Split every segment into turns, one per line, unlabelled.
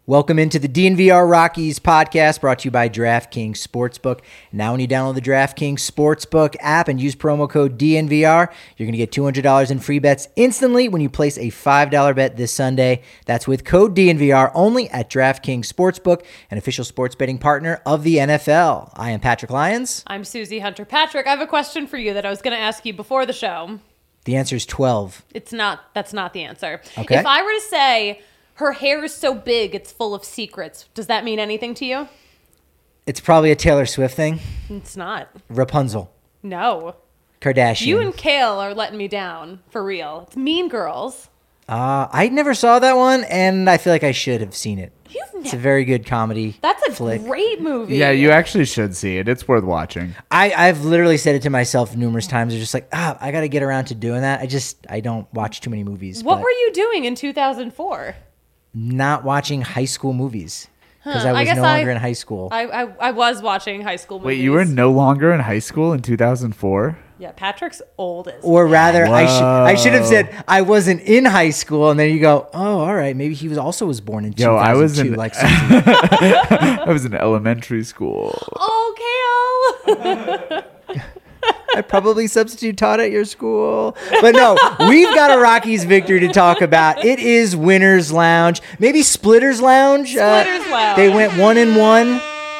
Welcome into the DNVR Rockies podcast brought to you by DraftKings Sportsbook. Now when you download the DraftKings Sportsbook app and use promo code DNVR, you're going to get $200 in free bets instantly when you place a $5 bet this Sunday. That's with code DNVR only at DraftKings Sportsbook, an official sports betting partner of the NFL. I am Patrick Lyons.
I'm Susie Hunter. Patrick, I have a question for you that I was going to ask you before the show.
The answer is 12.
That's not the answer.
Okay.
If I were to say her hair is so big, it's full of secrets, does that mean anything to you?
It's probably a Taylor Swift thing.
It's not.
Rapunzel.
No.
Kardashian.
You and Kale are letting me down, for real. It's Mean Girls.
I never saw that one, and I feel like I should have seen it. It's a very good comedy.
That's a
flick.
great movie.
Yeah, you actually should see it. It's worth watching.
I've literally said it to myself numerous times. It's just like, I got to get around to doing that. I don't watch too many movies.
What were you doing in 2004?
Not watching high school movies because I
I
was
guess
no longer in high school.
I was watching high school movies.
Wait, you were no longer in high school in 2004?
Yeah, Patrick's old as
Or rather,
Whoa.
I should have said I wasn't in high school, and then you go, oh, all right, maybe he was born in 2002.
I was in
like
I was in elementary school.
Oh, Kale!
I probably substitute taught at your school. But no, we've got a Rockies victory to talk about. It is Winners Lounge. Maybe Splitters Lounge.
Splitters Lounge.
They went 1-1.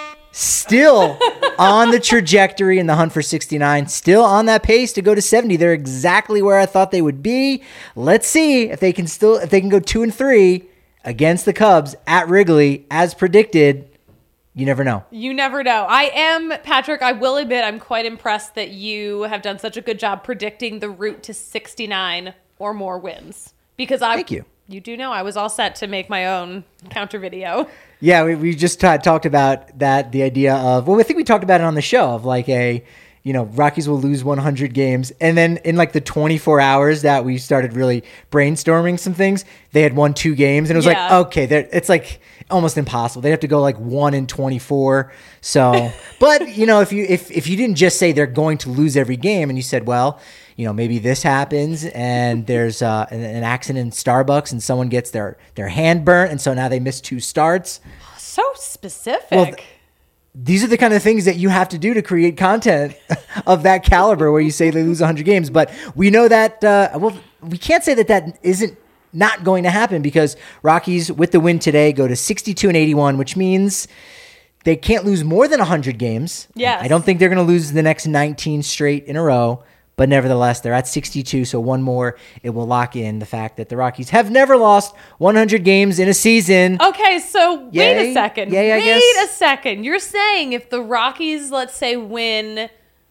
Still on the trajectory in the hunt for 69. Still on that pace to go to 70. They're exactly where I thought they would be. Let's see if they can go 2-3 against the Cubs at Wrigley as predicted. You never know.
You never know. Patrick, I will admit I'm quite impressed that you have done such a good job predicting the route to 69 or more wins. Because
Thank you.
You do know I was all set to make my own counter video.
Yeah, we just talked about that, the idea of, I think we talked about it on the show, of like Rockies will lose 100 games. And then in like the 24 hours that we started really brainstorming some things, they had won 2 games. And it was like, okay, it's like almost impossible. They have to go like 1-24. So, but if you didn't just say they're going to lose every game and you said, well, maybe this happens and there's an accident in Starbucks and someone gets their hand burnt. And so now they miss 2 starts.
So specific.
Well, these are the kind of things that you have to do to create content of that caliber where you say they lose 100 games. But we know that, we can't say that isn't not going to happen because Rockies, with the win today, go to 62-81, which means they can't lose more than 100 games.
Yes.
I don't think they're going to lose the next 19 straight in a row. But nevertheless, they're at 62, so one more, it will lock in the fact that the Rockies have never lost 100 games in a season.
Okay, so
Yay?
wait a second.
Yay, I guess.
Wait a second. You're saying if the Rockies, let's say, win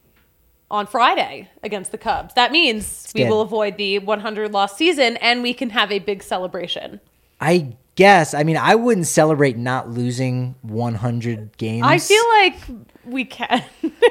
on Friday against the Cubs, that means we will avoid the 100-loss season and we can have a big celebration.
I guess. I mean, I wouldn't celebrate not losing 100 games.
I feel like we can.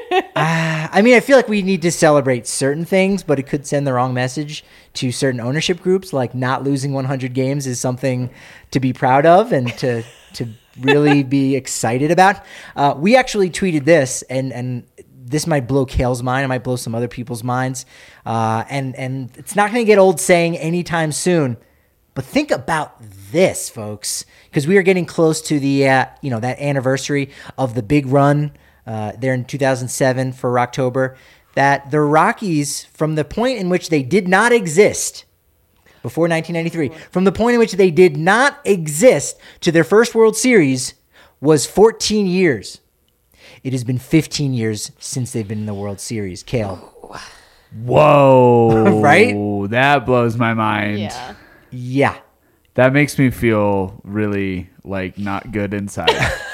I feel like we need to celebrate certain things, but it could send the wrong message to certain ownership groups. Like not losing 100 games is something to be proud of and to really be excited about. We actually tweeted this, and this might blow Kale's mind. It might blow some other people's minds. And it's not going to get old saying anytime soon. But think about this, folks, because we are getting close to the that anniversary of the big run there in 2007 for October. That the Rockies, from the point in which they did not exist before 1993, from the point in which they did not exist to their first World Series, was 14 years. It has been 15 years since they've been in the World Series. Kale.
Whoa.
Right?
That blows my mind.
Yeah.
Yeah.
That makes me feel really not good inside.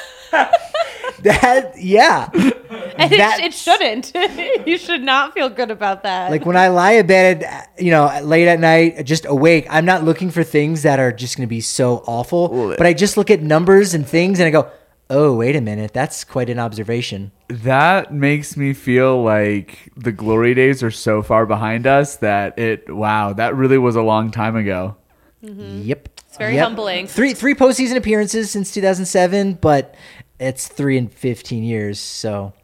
Yeah.
And it shouldn't. You should not feel good about that.
Like when I lie in bed, late at night, just awake, I'm not looking for things that are just going to be so awful, but I just look at numbers and things and I go, oh, wait a minute. That's quite an observation.
That makes me feel like the glory days are so far behind us that that really was a long time ago.
Mm-hmm.
Yep.
It's very humbling.
Three postseason appearances since 2007, but it's 3 in 15 years. So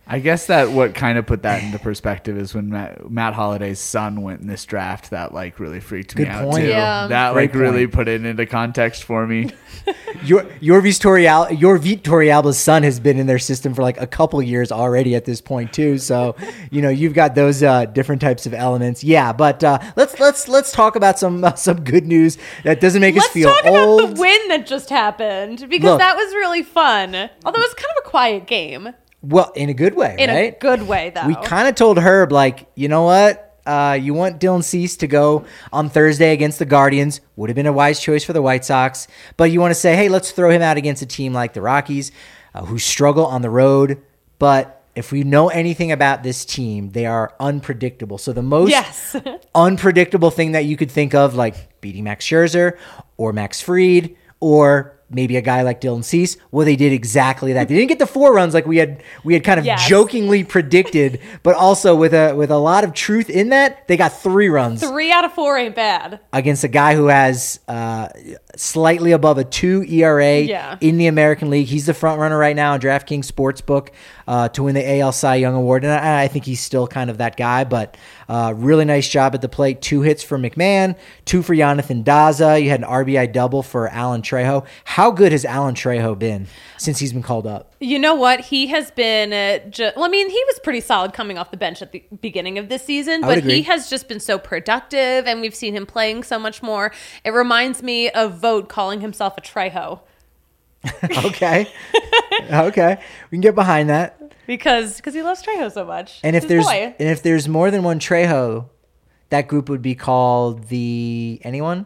I guess that what kind of put that into perspective is when Matt Holliday's son went in this draft. That like really freaked me out too.
Yeah.
That
Great
like really
point.
put it into context for me.
Your Vitor Alba's son has been in their system for like a couple years already at this point too. So, you've got those different types of elements. Yeah, but let's talk about some good news that doesn't make us feel
Let's talk
old.
about the win that just happened because
Look.
that was really fun. Although it was kind of a quiet game.
Well, in a good way,
In
right?
a good way, though.
We kind of told Herb, like, you know what? You want Dylan Cease to go on Thursday against the Guardians. Would have been a wise choice for the White Sox. But you want to say, hey, let's throw him out against a team like the Rockies who struggle on the road. But if we know anything about this team, they are unpredictable. So the most
Yes.
unpredictable thing that you could think of, like beating Max Scherzer or Max Fried or maybe a guy like Dylan Cease, well, they did exactly that. They didn't get the 4 runs like we had kind of
Yes.
jokingly predicted, but also with a lot of truth in that, they got 3 runs
3 out of 4 ain't bad.
against a guy who has slightly above a 2 ERA
Yeah.
in the American League. He's the front runner right now on DraftKings Sportsbook to win the AL Cy Young Award, and I think he's still kind of that guy, but really nice job at the plate. 2 hits for McMahon, 2 for Jonathan Daza. You had an RBI double for Alan Trejo. How good has Alan Trejo been since he's been called up?
You know what? He has been, he was pretty solid coming off the bench at the beginning of this season,
I would
but
agree.
he has just been so productive, and we've seen him playing so much more. It reminds me of Vogt calling himself a Trejo
Okay. Okay. We can get behind that.
because he loves Trejo so much.
And
It's his boy.
if there's more than one Trejo, that group would be called the anyone?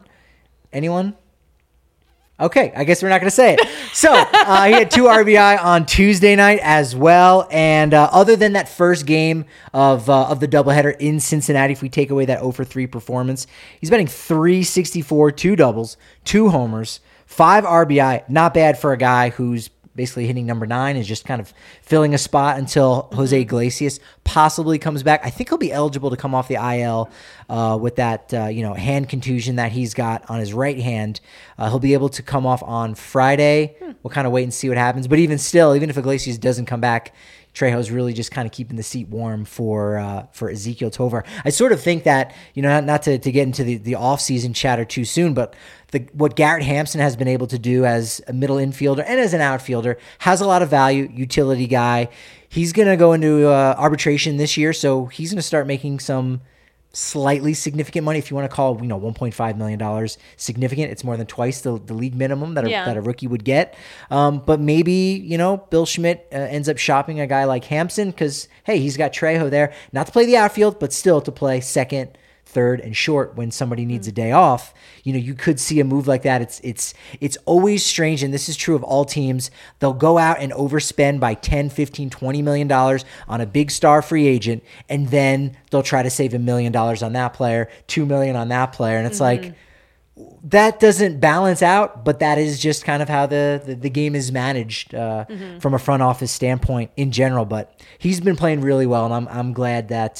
Okay, I guess we're not going to say it. So he had 2 RBI on Tuesday night as well. And other than that first game of the doubleheader in Cincinnati, if we take away that 0-for-3 performance, he's batting .364, 2 doubles, 2 homers, 5 RBI. Not bad for a guy who's basically hitting number 9, is just kind of filling a spot until Jose Iglesias possibly comes back. I think he'll be eligible to come off the IL with that hand contusion that he's got on his right hand. He'll be able to come off on Friday. We'll kind of wait and see what happens. But even still, even if Iglesias doesn't come back, Trejo's really just kind of keeping the seat warm for Ezekiel Tovar. I sort of think that, not to get into the offseason chatter too soon, but what Garrett Hampson has been able to do as a middle infielder and as an outfielder has a lot of value, utility guy. He's going to go into arbitration this year, so he's going to start making some slightly significant money, if you want to call $1.5 million significant. It's more than twice the league minimum that a rookie would get. But maybe Bill Schmidt ends up shopping a guy like Hampson because hey, he's got Trejo there, not to play the outfield, but still to play second, third, and short when somebody needs a day off. You could see a move like that. It's always strange, and this is true of all teams. They'll go out and overspend by $10, $15, $20 million on a big star free agent, and then they'll try to save $1 million on that player, $2 million on that player, and it's like that doesn't balance out. But that is just kind of how the game is managed from a front office standpoint in general. But he's been playing really well, and I'm glad that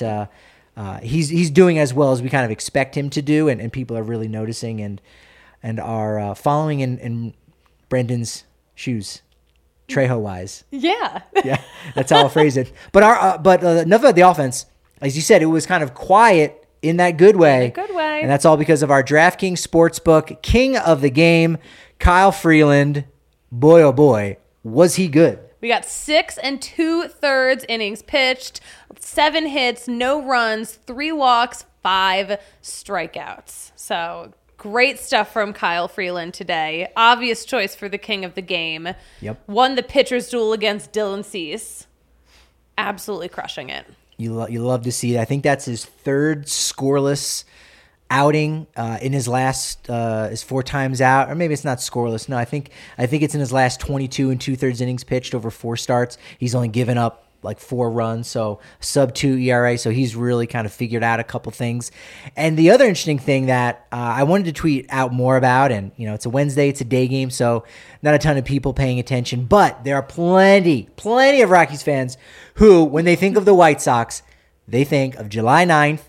he's doing as well as we kind of expect him to do, and people are really noticing and are following in Brendan's shoes, Trejo wise.
Yeah.
Yeah, that's how I'll phrase it. But enough about the offense. As you said, it was kind of quiet in that good way.
In a good way.
And that's all because of our DraftKings Sportsbook king of the game, Kyle Freeland. Boy, oh boy, was he good.
We got 6 2/3 innings pitched, 7 hits, no runs, 3 walks, 5 strikeouts. So great stuff from Kyle Freeland today. Obvious choice for the king of the game.
Yep.
Won the pitcher's duel against Dylan Cease. Absolutely crushing it.
You love to see it. I think that's his 3rd scoreless outing in his last his 4 times out, or maybe it's not scoreless. No, I think it's in his last 22 2/3 innings pitched over 4 starts. He's only given up like 4 runs, so sub-2 ERA. So he's really kind of figured out a couple things. And the other interesting thing that I wanted to tweet out more about, and it's a Wednesday, it's a day game, so not a ton of people paying attention, but there are plenty of Rockies fans who, when they think of the White Sox, they think of July 9th,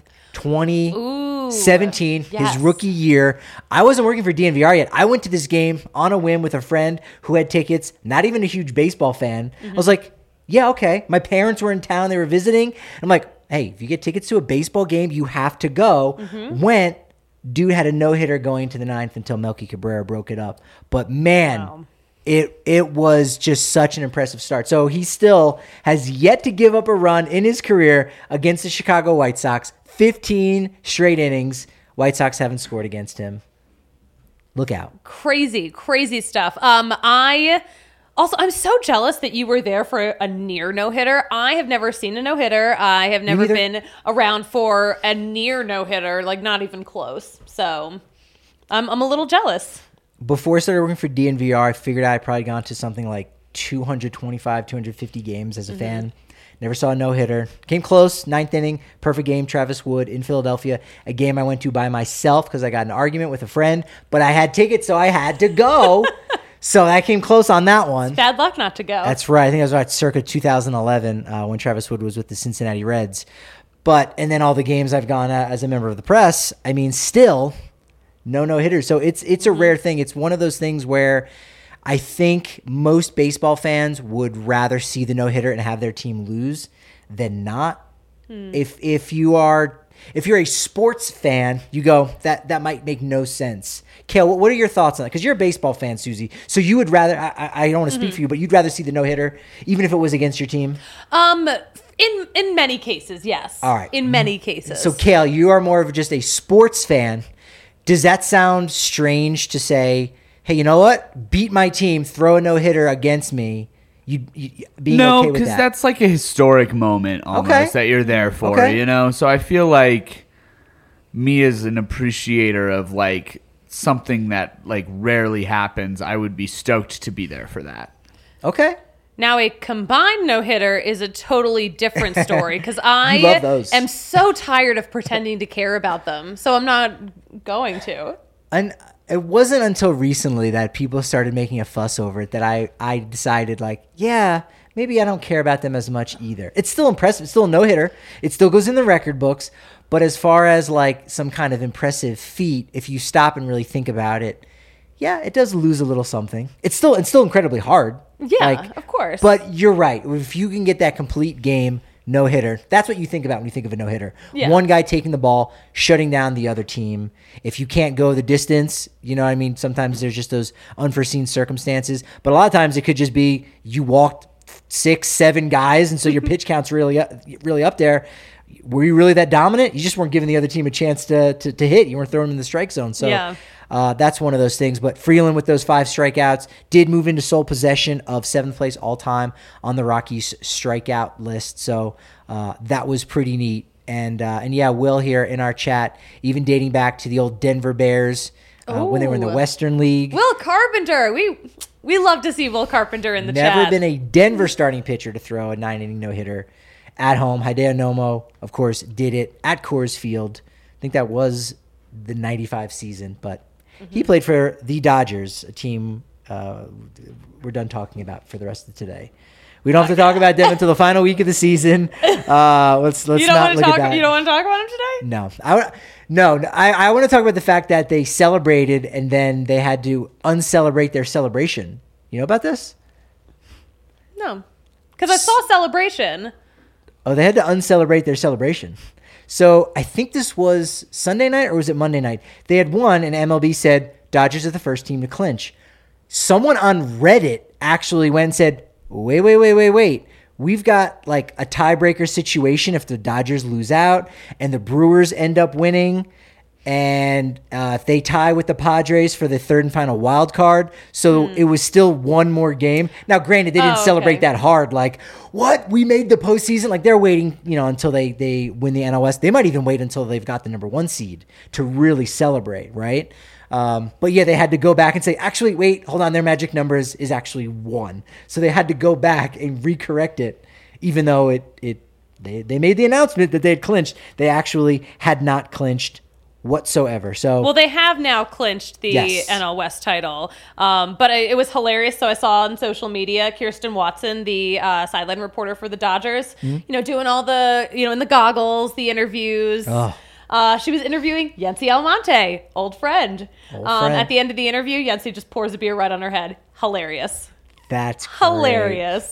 2017,
yes.
his rookie year. I wasn't working for DNVR yet. I went to this game on a whim with a friend who had tickets, not even a huge baseball fan. I was like, Yeah, okay. My parents were in town. They were visiting. I'm like, hey, if you get tickets to a baseball game, you have to go. Went. Dude had a no-hitter going to the ninth until Melky Cabrera broke it up. But, man,
Wow.
it was just such an impressive start. So he still has yet to give up a run in his career against the Chicago White Sox. 15 straight innings. White Sox haven't scored against him. Look out.
Crazy stuff. I'm so jealous that you were there for a near no-hitter. I have never seen a no-hitter. I have never
neither.
been around for a near no-hitter, like not even close. So I'm a little jealous.
Before I started working for DNVR, I figured I'd probably gone to something like 225, 250 games as a fan. Never saw a no-hitter. Came close, ninth inning, perfect game, Travis Wood in Philadelphia. A game I went to by myself because I got in an argument with a friend, but I had tickets, so I had to go. So I came close on that one.
Bad luck not to go.
That's right. I think I was right circa 2011 when Travis Wood was with the Cincinnati Reds. And then all the games I've gone at as a member of the press, I mean, still no-hitters. So it's a rare thing. It's one of those things where I think most baseball fans would rather see the no-hitter and have their team lose than not. If you're a sports fan, you go, that might make no sense. Kale, what are your thoughts on that? Because you're a baseball fan, Susie. So you would rather, I don't want to speak for you, but you'd rather see the no-hitter, even if it was against your team?
In many cases, yes.
All right.
In many cases.
So, Kale, you are more of just a sports fan. Does that sound strange to say, hey, you know what? Beat my team, throw a no-hitter against me. You being
No,
okay with
because
that?
that's like a historic moment almost
Okay.
that you're there for,
Okay.
you know? So I feel like me as an appreciator of like something that like rarely happens, I would be stoked to be there for that.
Okay.
Now, a combined no-hitter is a totally different story because
You
I
love those.
am so tired of pretending to care about them. So I'm not going to.
And it wasn't until recently that people started making a fuss over it that I decided, like, yeah, maybe I don't care about them as much either. It's still impressive. It's still a no-hitter. It still goes in the record books. But as far as, like, some kind of impressive feat, if you stop and really think about it, yeah, it does lose a little something. It's still incredibly hard.
Yeah, of course.
But you're right. If you can get that complete game no-hitter, that's what you think about when you think of a no-hitter.
Yeah.
One guy taking the ball, shutting down the other team. If you can't go the distance, you know what I mean? Sometimes there's just those unforeseen circumstances. But a lot of times it could just be you walked 6, 7 guys, and so your pitch count's really up there. Were you really that dominant? You just weren't giving the other team a chance to hit. You weren't throwing them in the strike zone. So
Yeah.
that's one of those things. But Freeland with those 5 strikeouts did move into sole possession of 7th place all time on the Rockies strikeout list. So that was pretty neat. And yeah, Will here in our chat, even dating back to the old Denver Bears when they were in the
Ooh.
Western League.
Will Carpenter. We love to see Will Carpenter in the chat.
Never been a Denver starting pitcher to throw a 9-inning no-hitter at home. Hideo Nomo, of course, did it at Coors Field. I think that was the 95 season, but he played for the Dodgers, a team we're done talking about for the rest of today. We don't have to talk about them until the final week of the season. Let's
You don't
not
want to
look at
talk.
that.
You don't want to talk about him today.
No, I want to talk about the fact that they celebrated and then they had to uncelebrate their celebration. You know about this?
No, because I saw Celebration.
Oh, they had to uncelebrate their celebration. So I think this was Sunday night or was it Monday night? They had won and MLB said Dodgers are the first team to clinch. Someone on Reddit actually went and said, wait. We've got like a tiebreaker situation if the Dodgers lose out and the Brewers end up winning. And if they tie with the Padres for the third and final wild card. So it was still one more game. Now, granted, they didn't celebrate that hard. Like, what? We made the postseason? Like, they're waiting, until they win the NL West. They might even wait until they've got the number 1 seed to really celebrate, right? But yeah, they had to go back and say, actually, wait, hold on. Their magic number is actually 1. So they had to go back and recorrect it, even though they made the announcement that they had clinched. They actually had not clinched whatsoever. So
Well, they have now clinched the
Yes.
NL West title. But it was hilarious. So I saw on social media Kirsten Watson, the sideline reporter for the Dodgers, doing all the, in the goggles, the interviews.
Oh.
She was interviewing Yency Almonte, old friend.
Old friend.
At the end of the interview, Yency just pours a beer right on her head. Hilarious.
that's great.
Hilarious.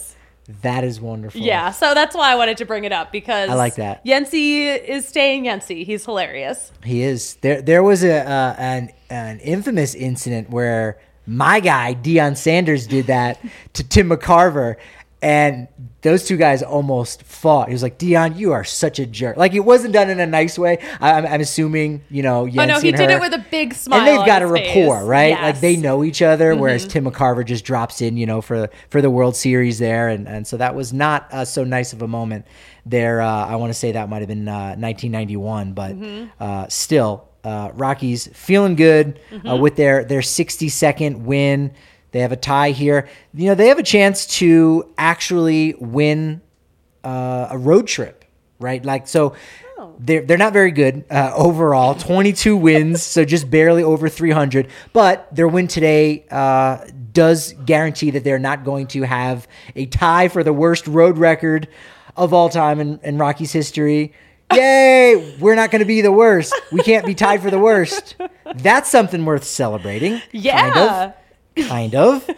That is wonderful.
Yeah, so that's why I wanted to bring it up, because
I like that.
Yency is staying Yency. He's hilarious.
He is. There was an infamous incident where my guy Deion Sanders did that to Tim McCarver, and those two guys almost fought. He was like, "Deion, you are such a jerk." Like, it wasn't done in a nice way. I'm assuming, Yency
Oh no, he
and
did
her,
it with a big smile.
and they've got a
on his
rapport,
face.
right?
Yes.
Like, they know each other. Whereas Tim McCarver just drops in, for the World Series there, and so that was not so nice of a moment there. I want to say that might have been 1991, but still, Rockies feeling good with their 62nd win. They have a tie here. They have a chance to actually win a road trip, right? Like, so they're not very good overall. 22 wins, so just barely over 300. But their win today does guarantee that they're not going to have a tie for the worst road record of all time in Rockies history. Yay! We're not going to be the worst. We can't be tied for the worst. That's something worth celebrating.
Yeah.
Kind of.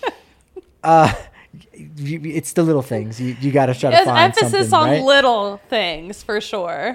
It's the little things. You got to try to
There's
find something,
emphasis on
right?
little things for sure.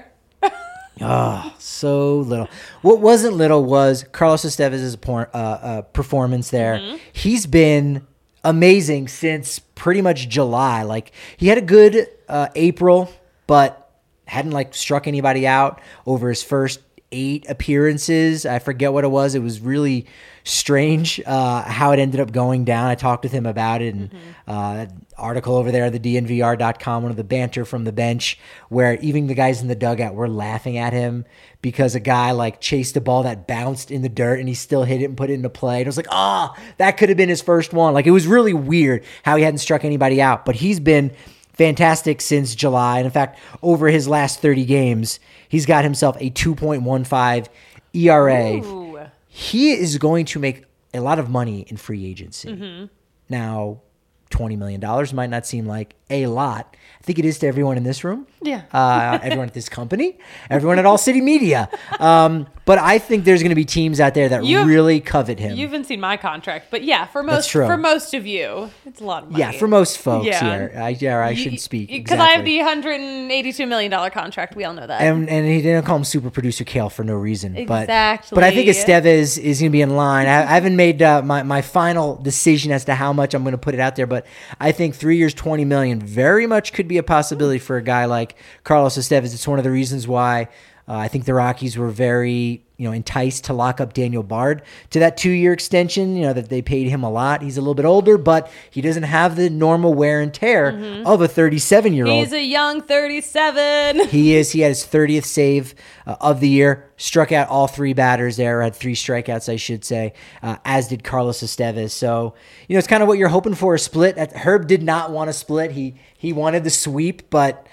Oh, so little. What wasn't little was Carlos Estevez's performance there. He's been amazing since pretty much July. Like, he had a good April, but hadn't struck anybody out over his first 8 appearances. I forget what it was. It was really strange how it ended up going down. I talked with him about it, and article over there at the DNVR.com, one of the banter from the bench, where even the guys in the dugout were laughing at him because a guy chased a ball that bounced in the dirt and he still hit it and put it into play. And it was like, that could have been his first one. It was really weird how he hadn't struck anybody out, but he's been fantastic since July. And in fact, over his last 30 games, he's got himself a 2.15 ERA.
Ooh.
He is going to make a lot of money in free agency. Now, $20 million might not seem like a lot. I think it is to everyone in this room.
Yeah.
Everyone at this company, everyone at All City Media. But I think there's going to be teams out there that really covet him.
You haven't seen my contract, but yeah, for
That's true.
most of you, it's a lot of money.
Yeah, for most folks
Yeah.
here. I shouldn't speak.
Because I have the $182 million contract. We all know that.
And he didn't call him super producer Kale for no reason.
Exactly.
But I think Estevez is going to be in line. I haven't made my final decision as to how much I'm going to put it out there, but I think 3 years, $20 million very much could be a possibility for a guy like Carlos Estevez. It's one of the reasons why I think the Rockies were very enticed to lock up Daniel Bard to that 2-year extension, that they paid him a lot. He's a little bit older, but he doesn't have the normal wear and tear of a 37-year-old.
He's a young 37.
He is. He had his 30th save of the year, struck out all 3 batters there, had 3 strikeouts, I should say, as did Carlos Estevez. So, it's kind of what you're hoping for, a split. Herb did not want a split. He wanted the sweep, but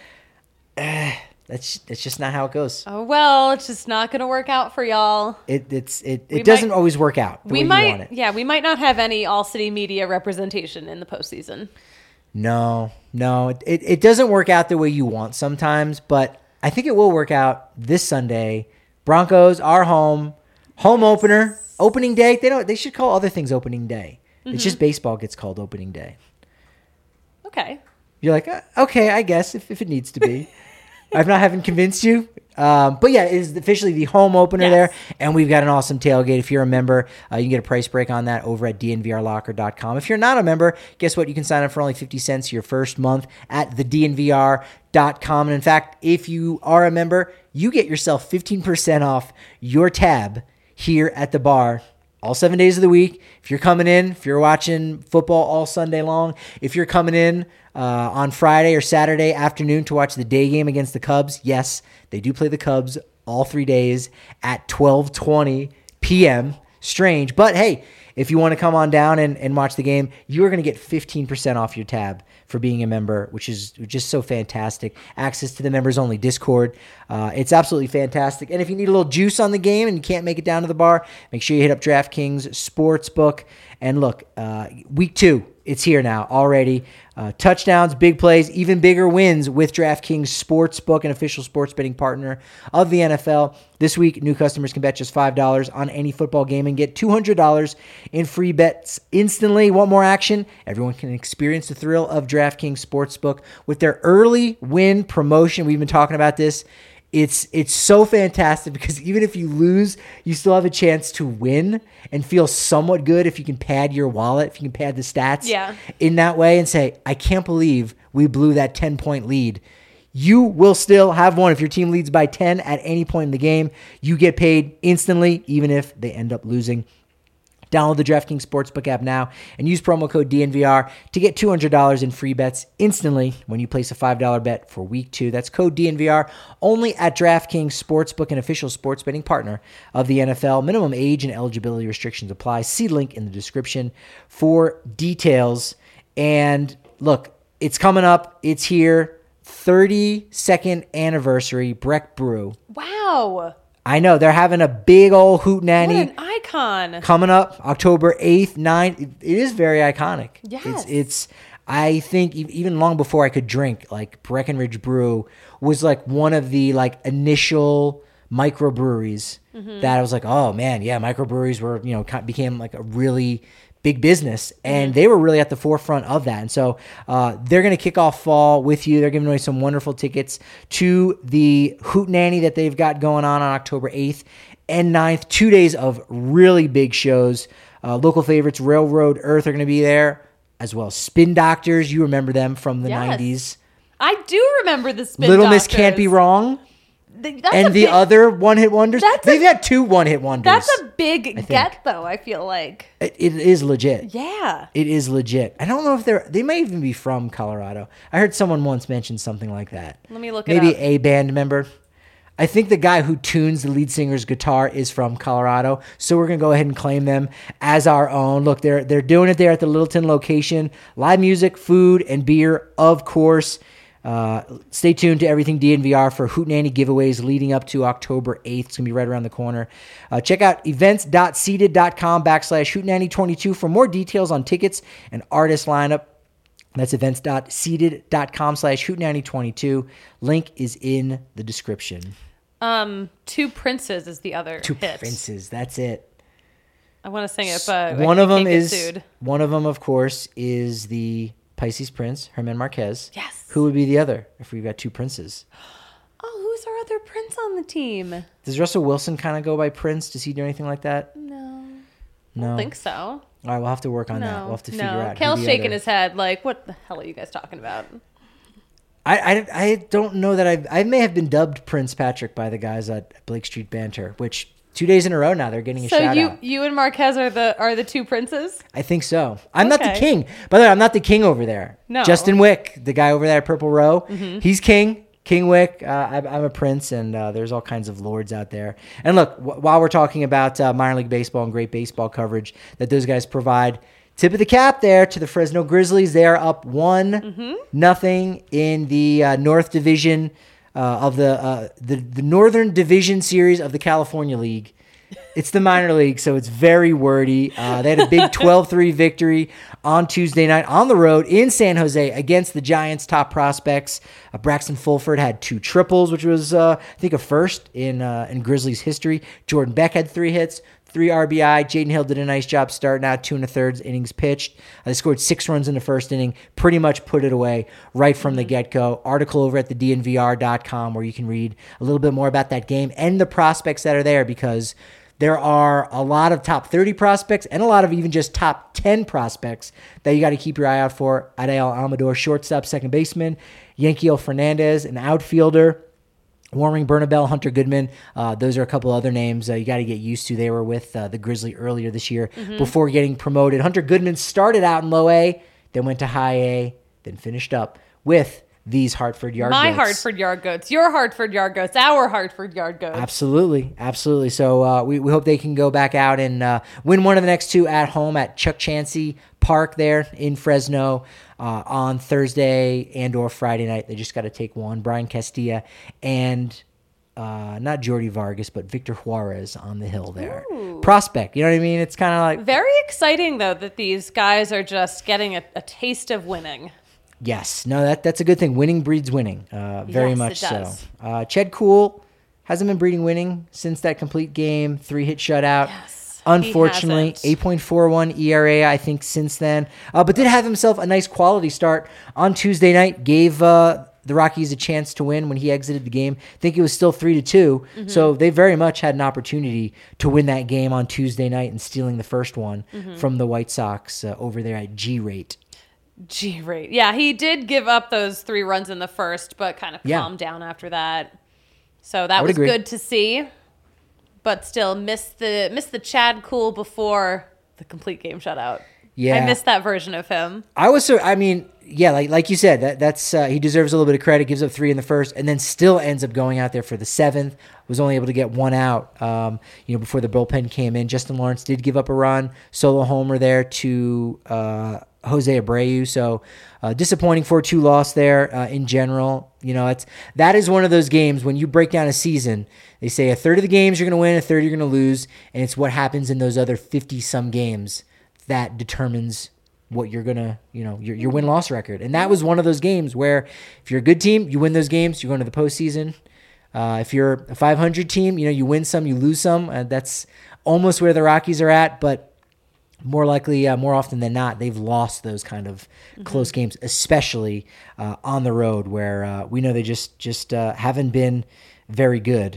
that's just not how it goes.
Oh, well, it's just not going to work out for y'all.
It doesn't always work out the way you want it.
Yeah, we might not have any All City Media representation in the postseason.
No, it doesn't work out the way you want sometimes, but I think it will work out this Sunday. Broncos are home opener, opening day. They should call other things opening day. It's just baseball gets called opening day.
Okay.
You're like, okay, I guess if it needs to be. haven't convinced you. But yeah, it is officially the home opener there. And we've got an awesome tailgate. If you're a member, you can get a price break on that over at dnvrlocker.com. If you're not a member, guess what? You can sign up for only 50 cents your first month at the dnvr.com. And in fact, if you are a member, you get yourself 15% off your tab here at the bar all 7 days of the week. If you're coming in, if you're watching football all Sunday long, if you're coming in on Friday or Saturday afternoon to watch the day game against the Cubs, yes, they do play the Cubs all 3 days at 12:20 p.m. Strange. But hey, if you want to come on down and watch the game, you're going to get 15% off your tab for being a member, which is just so fantastic. Access to the members-only Discord. It's absolutely fantastic. And if you need a little juice on the game and you can't make it down to the bar, make sure you hit up DraftKings Sportsbook. And look, week 2 It's here now already. Touchdowns, big plays, even bigger wins with DraftKings Sportsbook, an official sports betting partner of the NFL. This week, new customers can bet just $5 on any football game and get $200 in free bets instantly. Want more action? Everyone can experience the thrill of DraftKings Sportsbook with their early win promotion. We've been talking about this. It's so fantastic because even if you lose, you still have a chance to win and feel somewhat good if you can pad your wallet, if you can pad the stats in that way and say, I can't believe we blew that 10-point lead. You will still have won. If your team leads by 10 at any point in the game, you get paid instantly, even if they end up losing. Download the DraftKings Sportsbook app now and use promo code DNVR to get $200 in free bets instantly when you place a $5 bet for week 2. That's code DNVR only at DraftKings Sportsbook, an official sports betting partner of the NFL. Minimum age and eligibility restrictions apply. See link in the description for details. And look, it's coming up. It's here. 32nd anniversary Breck Brew.
Wow.
I know. They're having a big old hootenanny.
What an icon.
Coming up October 8th, 9th. It is very iconic.
Yes.
It's I think even long before I could drink, like Breckenridge Brew was like one of the like initial microbreweries that I was like, oh man, yeah, microbreweries were, became like a really big business, and they were really at the forefront of that. And so they're going to kick off fall with you. They're giving away some wonderful tickets to the hootenanny that they've got going on October 8th and 9th. 2 days of really big shows. Local favorites, Railroad Earth, are going to be there, as well as Spin Doctors. You remember them from the 90s.
I do remember the Spin
Little
Doctors.
Miss Can't Be Wrong.
That's
and the other one-hit wonders. They've had 2 one-hit wonders.
That's a big get, though, I feel like.
It is legit.
Yeah.
It is legit. I don't know if they may even be from Colorado. I heard someone once mention something like that.
Let me look it up.
Maybe a band member. I think the guy who tunes the lead singer's guitar is from Colorado, so we're going to go ahead and claim them as our own. Look, they're doing it there at the Littleton location. Live music, food, and beer, of course. Stay tuned to Everything DNVR for hootenanny giveaways leading up to October 8th. It's going to be right around the corner. Check out events.seated.com/hootenanny22 for more details on tickets and artist lineup. That's events.seated.com/hootenanny22. Link is in the description.
Two Princes is the other
Two
hit.
Princes, that's it.
I want to sing it, but
one of them is
sued.
One of them, of course, is the Pisces Prince, Herman Marquez.
Yes.
Who would be the other if we've got 2 princes?
Oh, who's our other prince on the team?
Does Russell Wilson kind of go by Prince? Does he do anything like that?
No.
No.
I don't think so.
All right, we'll have to work on that. We'll have to figure out.
Kale's shaking his head like, what the hell are you guys talking about?
I don't know that I may have been dubbed Prince Patrick by the guys at Blake Street Banter, which 2 days in a row now they're getting a shout out.
So you and Marquez are the 2 princes?
I think so. I'm not the king. By the way, I'm not the king over there.
No.
Justin Wick, the guy over there at Purple Row, he's king. King Wick, I'm a prince, and there's all kinds of lords out there. And look, while we're talking about minor league baseball and great baseball coverage that those guys provide, tip of the cap there to the Fresno Grizzlies. They are up 1-0 in the North Division of the Northern Division Series of the California League. It's the minor league, so it's very wordy. They had a big 12-3 victory on Tuesday night on the road in San Jose against the Giants' top prospects. Braxton Fulford had 2 triples, which was, I think, a first in Grizzlies history. Jordan Beck had 3 hits, 3 RBI. Jaden Hill did a nice job starting out 2 1/3 innings pitched. They scored 6 runs in the first inning, pretty much put it away right from the get-go. Article over at the DNVR.com where you can read a little bit more about that game and the prospects that are there, because there are a lot of top 30 prospects and a lot of even just top 10 prospects that you got to keep your eye out for. Adael Amador, shortstop, second baseman. Yankiel Fernandez, an outfielder. Warming Bernabel, Hunter Goodman. Those are a couple other names you got to get used to. They were with the Grizzly earlier this year before getting promoted. Hunter Goodman started out in low A, then went to high A, then finished up with these Hartford Yard Goats.
My Hartford Yard Goats. Your Hartford Yard Goats. Our Hartford Yard Goats.
Absolutely. Absolutely. So we hope they can go back out and win one of the next 2 at home at Chuck Chansey Park there in Fresno on Thursday and or Friday night. They just got to take one. Brian Castilla and not Jordi Vargas, but Victor Juarez on the hill there. Ooh. Prospect, you know what I mean? It's kind of like...
Very exciting, though, that these guys are just getting a taste of winning.
Yes. No, that's a good thing. Winning breeds winning. Very
yes,
much
it does.
so. Ched Kuhl hasn't been breeding winning since that complete game, 3-hit shutout.
Yes,
unfortunately, 8.41 ERA, I think, since then. But did have himself a nice quality start on Tuesday night. Gave the Rockies a chance to win when he exited the game. I think it was still 3-2. Mm-hmm. So they very much had an opportunity to win that game on Tuesday night and stealing the first one from the White Sox over there at G-Rate.
G-Rate. Yeah, he did give up those 3 runs in the first, but kind of calmed down after that. So that was good to see. But still missed the Chad Kuhl before the complete game shutout. Yeah. I missed that version of him.
Like you said, that's he deserves a little bit of credit. Gives up 3 in the first, and then still ends up going out there for the 7th. Was only able to get 1 out, before the bullpen came in. Justin Lawrence did give up a run, solo homer there to Jose Abreu. So disappointing 4-2 loss there in general. That is one of those games when you break down a season. They say a third of the games you're going to win, a third you're going to lose, and it's what happens in those other 50-some games that determines what you're going to, your win-loss record. And that was one of those games where if you're a good team, you win those games, you're going to the postseason. If you're a 500 team, you win some, you lose some. That's almost where the Rockies are at, but more likely, more often than not, they've lost those kind of close games, especially on the road where we know they just haven't been very good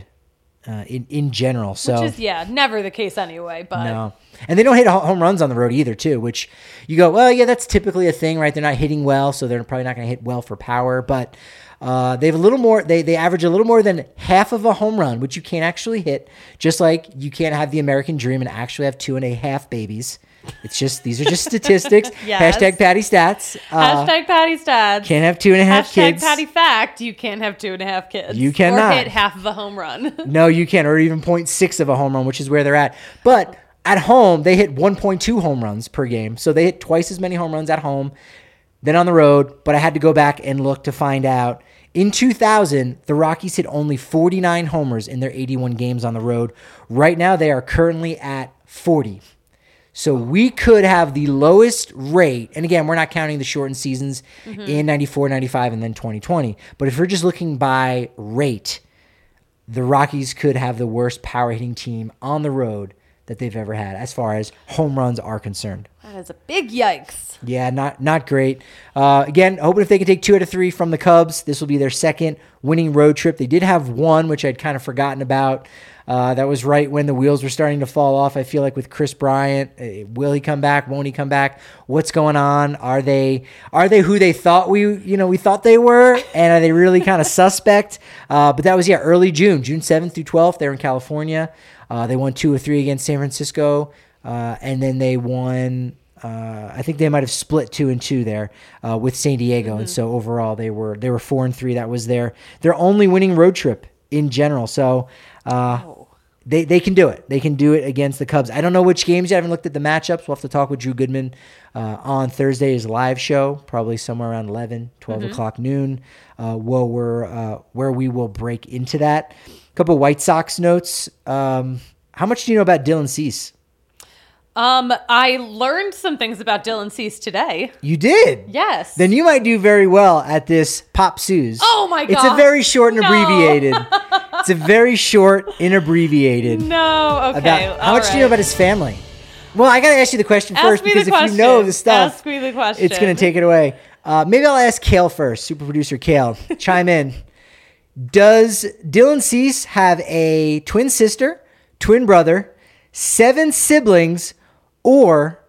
in general. So,
which is, never the case anyway. But
no. And they don't hit home runs on the road either, too, which you go, well, yeah, that's typically a thing, right? They're not hitting well, so they're probably not going to hit well for power. But they have a little more. They average a little more than half of a home run, which you can't actually hit. Just like you can't have the American dream and actually have 2.5 babies. It's just these are just statistics.
Yes.
Hashtag Patty Stats.
Hashtag Patty Stats.
Can't have 2.5 kids.
Hashtag Patty Fact. You can't have 2.5 kids.
You cannot.
Or hit half of a home run.
No, you can't. Or even 0.6 of a home run, which is where they're at. But at home, they hit 1.2 home runs per game. So they hit twice as many home runs at home than on the road. But I had to go back and look to find out. In 2000, the Rockies hit only 49 homers in their 81 games on the road. Right now, they are currently at 40. So we could have the lowest rate, and again, we're not counting the shortened seasons in 94, 95, and then 2020. But if we're just looking by rate, the Rockies could have the worst power hitting team on the road that they've ever had as far as home runs are concerned.
That is a big yikes.
Yeah, not great. Again, hoping if they can take 2 out of 3 from the Cubs, this will be their second winning road trip. They did have one, which I'd kind of forgotten about. That was right when the wheels were starting to fall off. I feel like with Chris Bryant, will he come back? Won't he come back? What's going on? Are they who they thought we thought they were? And are they really kind of suspect? But that was early June 7th through 12th. They were in California. They won 2 of 3 against San Francisco, and then they won. I think they might have split 2-2 there with San Diego, and so overall they were 4-3. That was their only winning road trip in general. So. They can do it. They can do it against the Cubs. I don't know which games yet. I haven't looked at the matchups. We'll have to talk with Drew Goodman on Thursday's live show, probably somewhere around 12 o'clock noon, where we will break into that. A couple White Sox notes. How much do you know about Dylan Cease?
I learned some things about Dylan Cease today.
You did?
Yes.
Then you might do very well at this Pop Suze.
Oh my God.
It's a very short and abbreviated. It's a very short and abbreviated.
No, okay.
How much do you know about his family? Well, I got to ask you the question first because if you know the stuff,
ask me the question.
It's going to take it away. Maybe I'll ask Kale first, super producer Kale. Chime in. Does Dylan Cease have a twin sister, twin brother, 7 siblings, or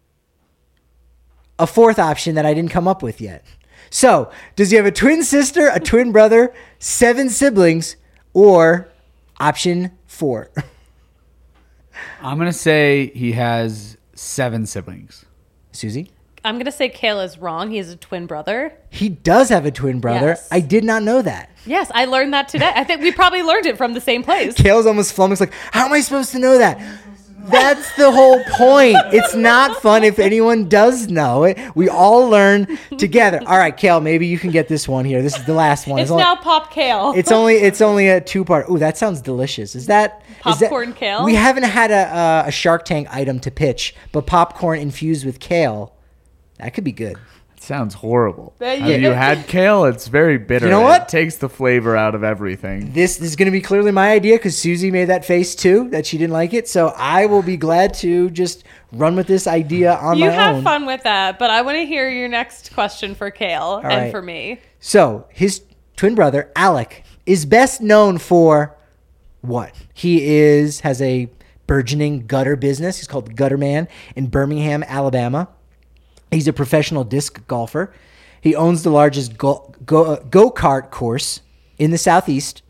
a fourth option that I didn't come up with yet? So, does he have a twin sister, a twin brother, 7 siblings, or option 4?
I'm going to say he has 7 siblings.
Susie?
I'm going to say Kayla's wrong. He has a twin brother.
He does have a twin brother.
Yes.
I did not know that.
Yes, I learned that today. I think we probably learned it from the same place.
Kayla's almost flummoxed like, how am I supposed to know that? That's the whole point. It's not fun if anyone does know it. We all learn together. All right, Kale, maybe you can get this one here. This is the last one.
It's now pop kale.
It's only a 2-part. Ooh, that sounds delicious. Is that
popcorn kale?
We haven't had a Shark Tank item to pitch, but popcorn infused with kale, that could be good.
Sounds horrible.
Yeah.
Have you had kale? It's very bitter.
You know what?
It takes the flavor out of everything.
This is going to be clearly my idea because Susie made that face too, that she didn't like it. So I will be glad to just run with this idea on my own.
You have fun with that, but I want to hear your next question for Kale and for me.
So his twin brother, Alec, is best known for what? He has a burgeoning gutter business. He's called Gutter Man in Birmingham, Alabama. He's a professional disc golfer. He owns the largest go-kart course in the Southeast.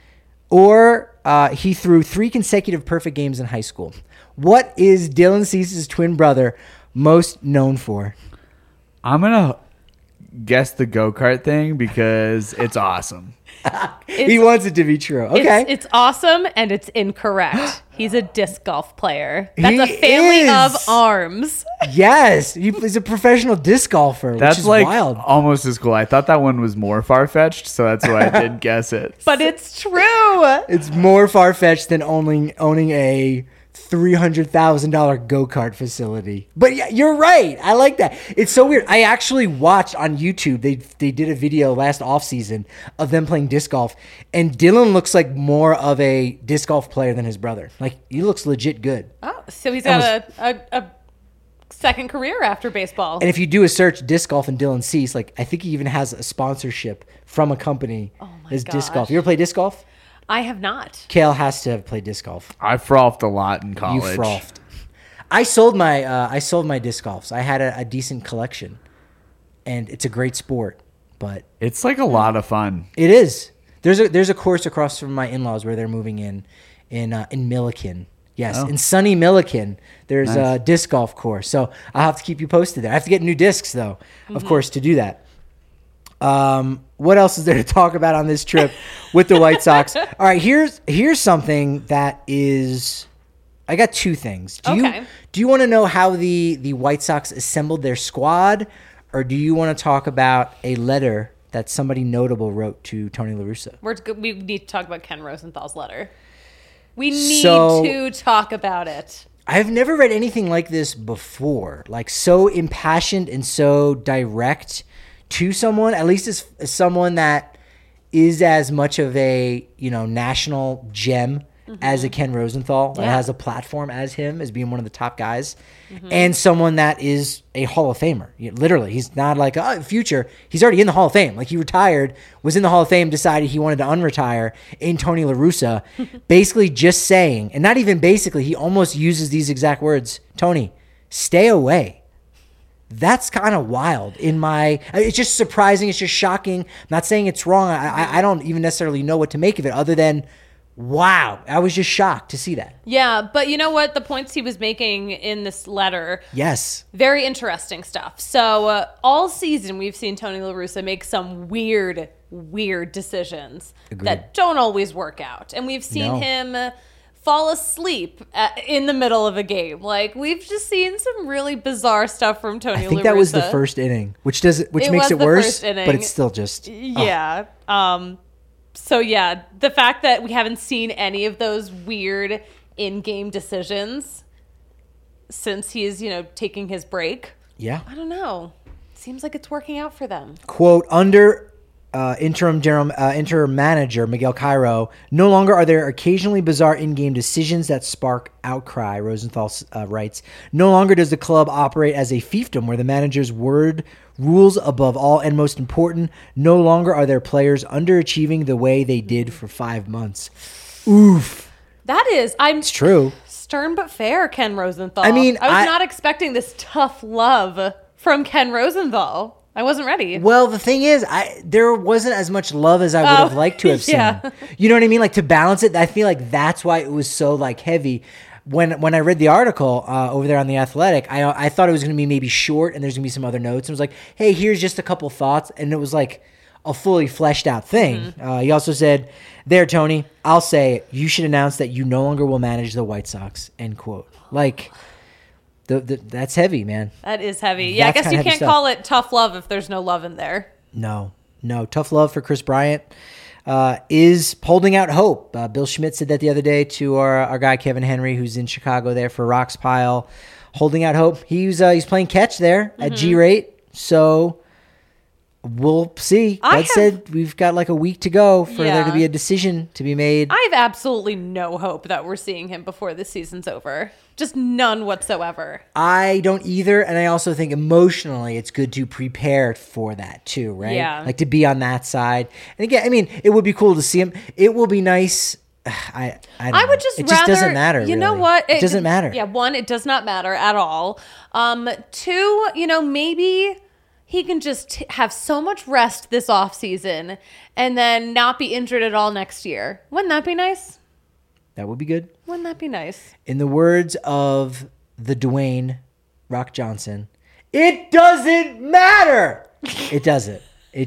He threw 3 consecutive perfect games in high school. What is Dylan Cease's twin brother most known for?
I'm going to guess the go-kart thing because it's awesome.
He wants it to be true. Okay.
It's awesome and it's incorrect. He's a disc golf player. That's
He
a family of
is.
arms.
Yes. He's a professional disc golfer,
That's
which is
like
wild.
almost as cool. I thought that one was more far-fetched, so that's why I did guess it.
But it's true.
It's more far-fetched than owning a $300,000 go-kart facility. But yeah, you're right. I like that. It's so weird. I actually watched on YouTube. They did a video last offseason of them playing disc golf, and Dylan looks like more of a disc golf player than his brother. Like, he looks legit good.
Oh, so he's got a second career after baseball.
And if you do a search disc golf and Dylan Cease, like, I think he even has a sponsorship from a company as disc golf.
gosh.
You ever play disc golf?
I have not.
Kale has to have played disc golf.
I frothed a lot in college.
You frothed. I sold my disc golfs. I had a decent collection, and it's a great sport. But
It's like a lot of fun.
it is. There's a course across from my in-laws where they're moving in Milliken. Yes, in sunny Milliken, there's a disc golf course. So I'll have to keep you posted there. I have to get new discs though, of course, to do that. What else is there to talk about on this trip with the White Sox? All right, here's something that is. I got 2 things. Do you want to know how the White Sox assembled their squad, or do you want to talk about a letter that somebody notable wrote to Tony La Russa?
We need to talk about Ken Rosenthal's letter. We need to talk about it.
I've never read anything like this before, like so impassioned and so direct to someone, at least as someone that is as much of a national gem as a Ken Rosenthal, that has a platform as him, as being one of the top guys, and someone that is a Hall of Famer. Literally, he's not like future. He's already in the Hall of Fame. Like, he retired, was in the Hall of Fame, decided he wanted to unretire in Tony La Russa, basically just saying, and not even basically, he almost uses these exact words: Tony, stay away. That's kind of wild. It's just surprising. It's just shocking. I'm not saying it's wrong. I don't even necessarily know what to make of it other than, wow, I was just shocked to see that.
Yeah, but you know what? The points he was making in this letter,
Yes.
very interesting stuff. So all season we've seen Tony La Russa make some weird decisions that don't always work out. And we've seen him fall asleep in the middle of a game. Like, we've just seen some really bizarre stuff from Tony La Russa.
I think that was the first inning, which makes it worse, but it's still just...
Yeah. So, yeah, the fact that we haven't seen any of those weird in-game decisions since he's, taking his break.
Yeah.
I don't know. Seems like it's working out for them.
Quote, under interim manager Miguel Cairo, no longer are there occasionally bizarre in-game decisions that spark outcry, Rosenthal writes. No longer does the club operate as a fiefdom where the manager's word rules above all, and most important, no longer are there players underachieving the way they did for 5 months. Oof.
It's
true.
Stern but fair, Ken Rosenthal.
I mean,
I was not expecting this tough love from Ken Rosenthal. I wasn't ready.
Well, the thing is, there wasn't as much love as I would have liked to have seen.
Yeah.
You know what I mean? Like, to balance it, I feel like that's why it was so heavy. When I read the article over there on The Athletic, I thought it was going to be maybe short and there's going to be some other notes. And it was like, hey, here's just a couple thoughts. And it was like, a fully fleshed out thing. He also said, there, Tony, I'll say it. You should announce that you no longer will manage the White Sox, end quote. Like, that's heavy, man.
That is heavy. Yeah,
That's
I guess you
kinda heavy
can't
stuff.
call it tough love if there's no love in there.
No. Tough love for Chris Bryant is holding out hope. Bill Schmidt said that the other day to our guy Kevin Henry, who's in Chicago there for Rocks Pile, holding out hope. He's playing catch there at G-rate, so we'll see. Bud said we've got like a week to go for there to be a decision to be made.
I have absolutely no hope that we're seeing him before this season's over. Just none whatsoever.
I don't either, and I also think emotionally it's good to prepare for that too, right?
Yeah.
Like to be on that side. And again, I mean, it would be cool to see him. It will be nice. I don't know.
would just
it
rather,
just doesn't matter.
You know
really.
what?
It doesn't matter.
Yeah, one, it does not matter at all. Two, maybe he can just have so much rest this offseason and then not be injured at all next year. Wouldn't that be nice?
That would be good.
Wouldn't that be nice?
In the words of the Dwayne Rock Johnson, it doesn't matter. It doesn't.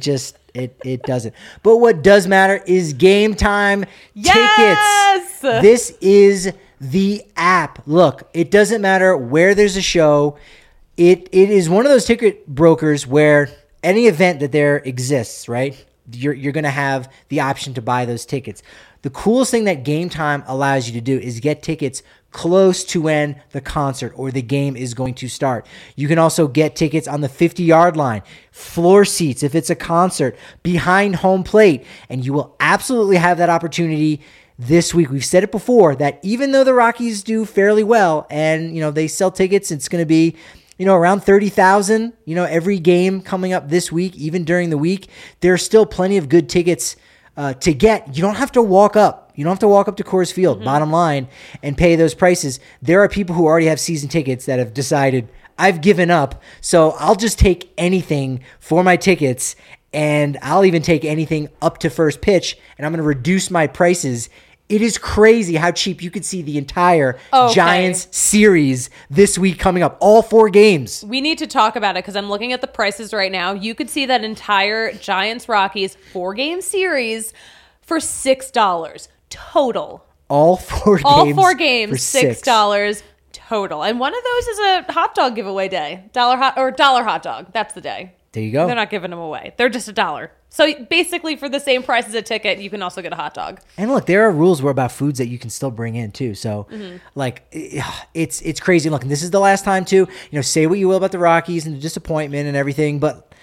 It doesn't. But what does matter is Game Time
Yes!
tickets. This is the app. Look, it doesn't matter where there's a show. It is one of those ticket brokers where any event that there exists, right? You're going to have the option to buy those tickets. The coolest thing that Game Time allows you to do is get tickets close to when the concert or the game is going to start. You can also get tickets on the 50-yard line, floor seats if it's a concert, behind home plate, and you will absolutely have that opportunity this week. We've said it before that even though the Rockies do fairly well and, they sell tickets, it's going to be around 30,000, every game coming up this week, even during the week, there are still plenty of good tickets to get. You don't have to walk up. You don't have to walk up to Coors Field, bottom line, and pay those prices. There are people who already have season tickets that have decided, I've given up, so I'll just take anything for my tickets, and I'll even take anything up to first pitch, and I'm going to reduce my prices. It is crazy how cheap you could see the entire Giants series this week coming up. All 4 games.
We need to talk about it because I'm looking at the prices right now. You could see that entire Giants-Rockies 4-game series for $6 total.
All 4 games.
All 4 games,
for
$6 total. And one of those is a hot dog giveaway day. Dollar hot dog. That's the day.
There you go.
They're not giving them away. They're just $1. So basically, for the same price as a ticket, you can also get a hot dog.
And look, there are rules about foods that you can still bring in too. So, it's crazy. Look, and this is the last time too. Say what you will about the Rockies and the disappointment and everything, but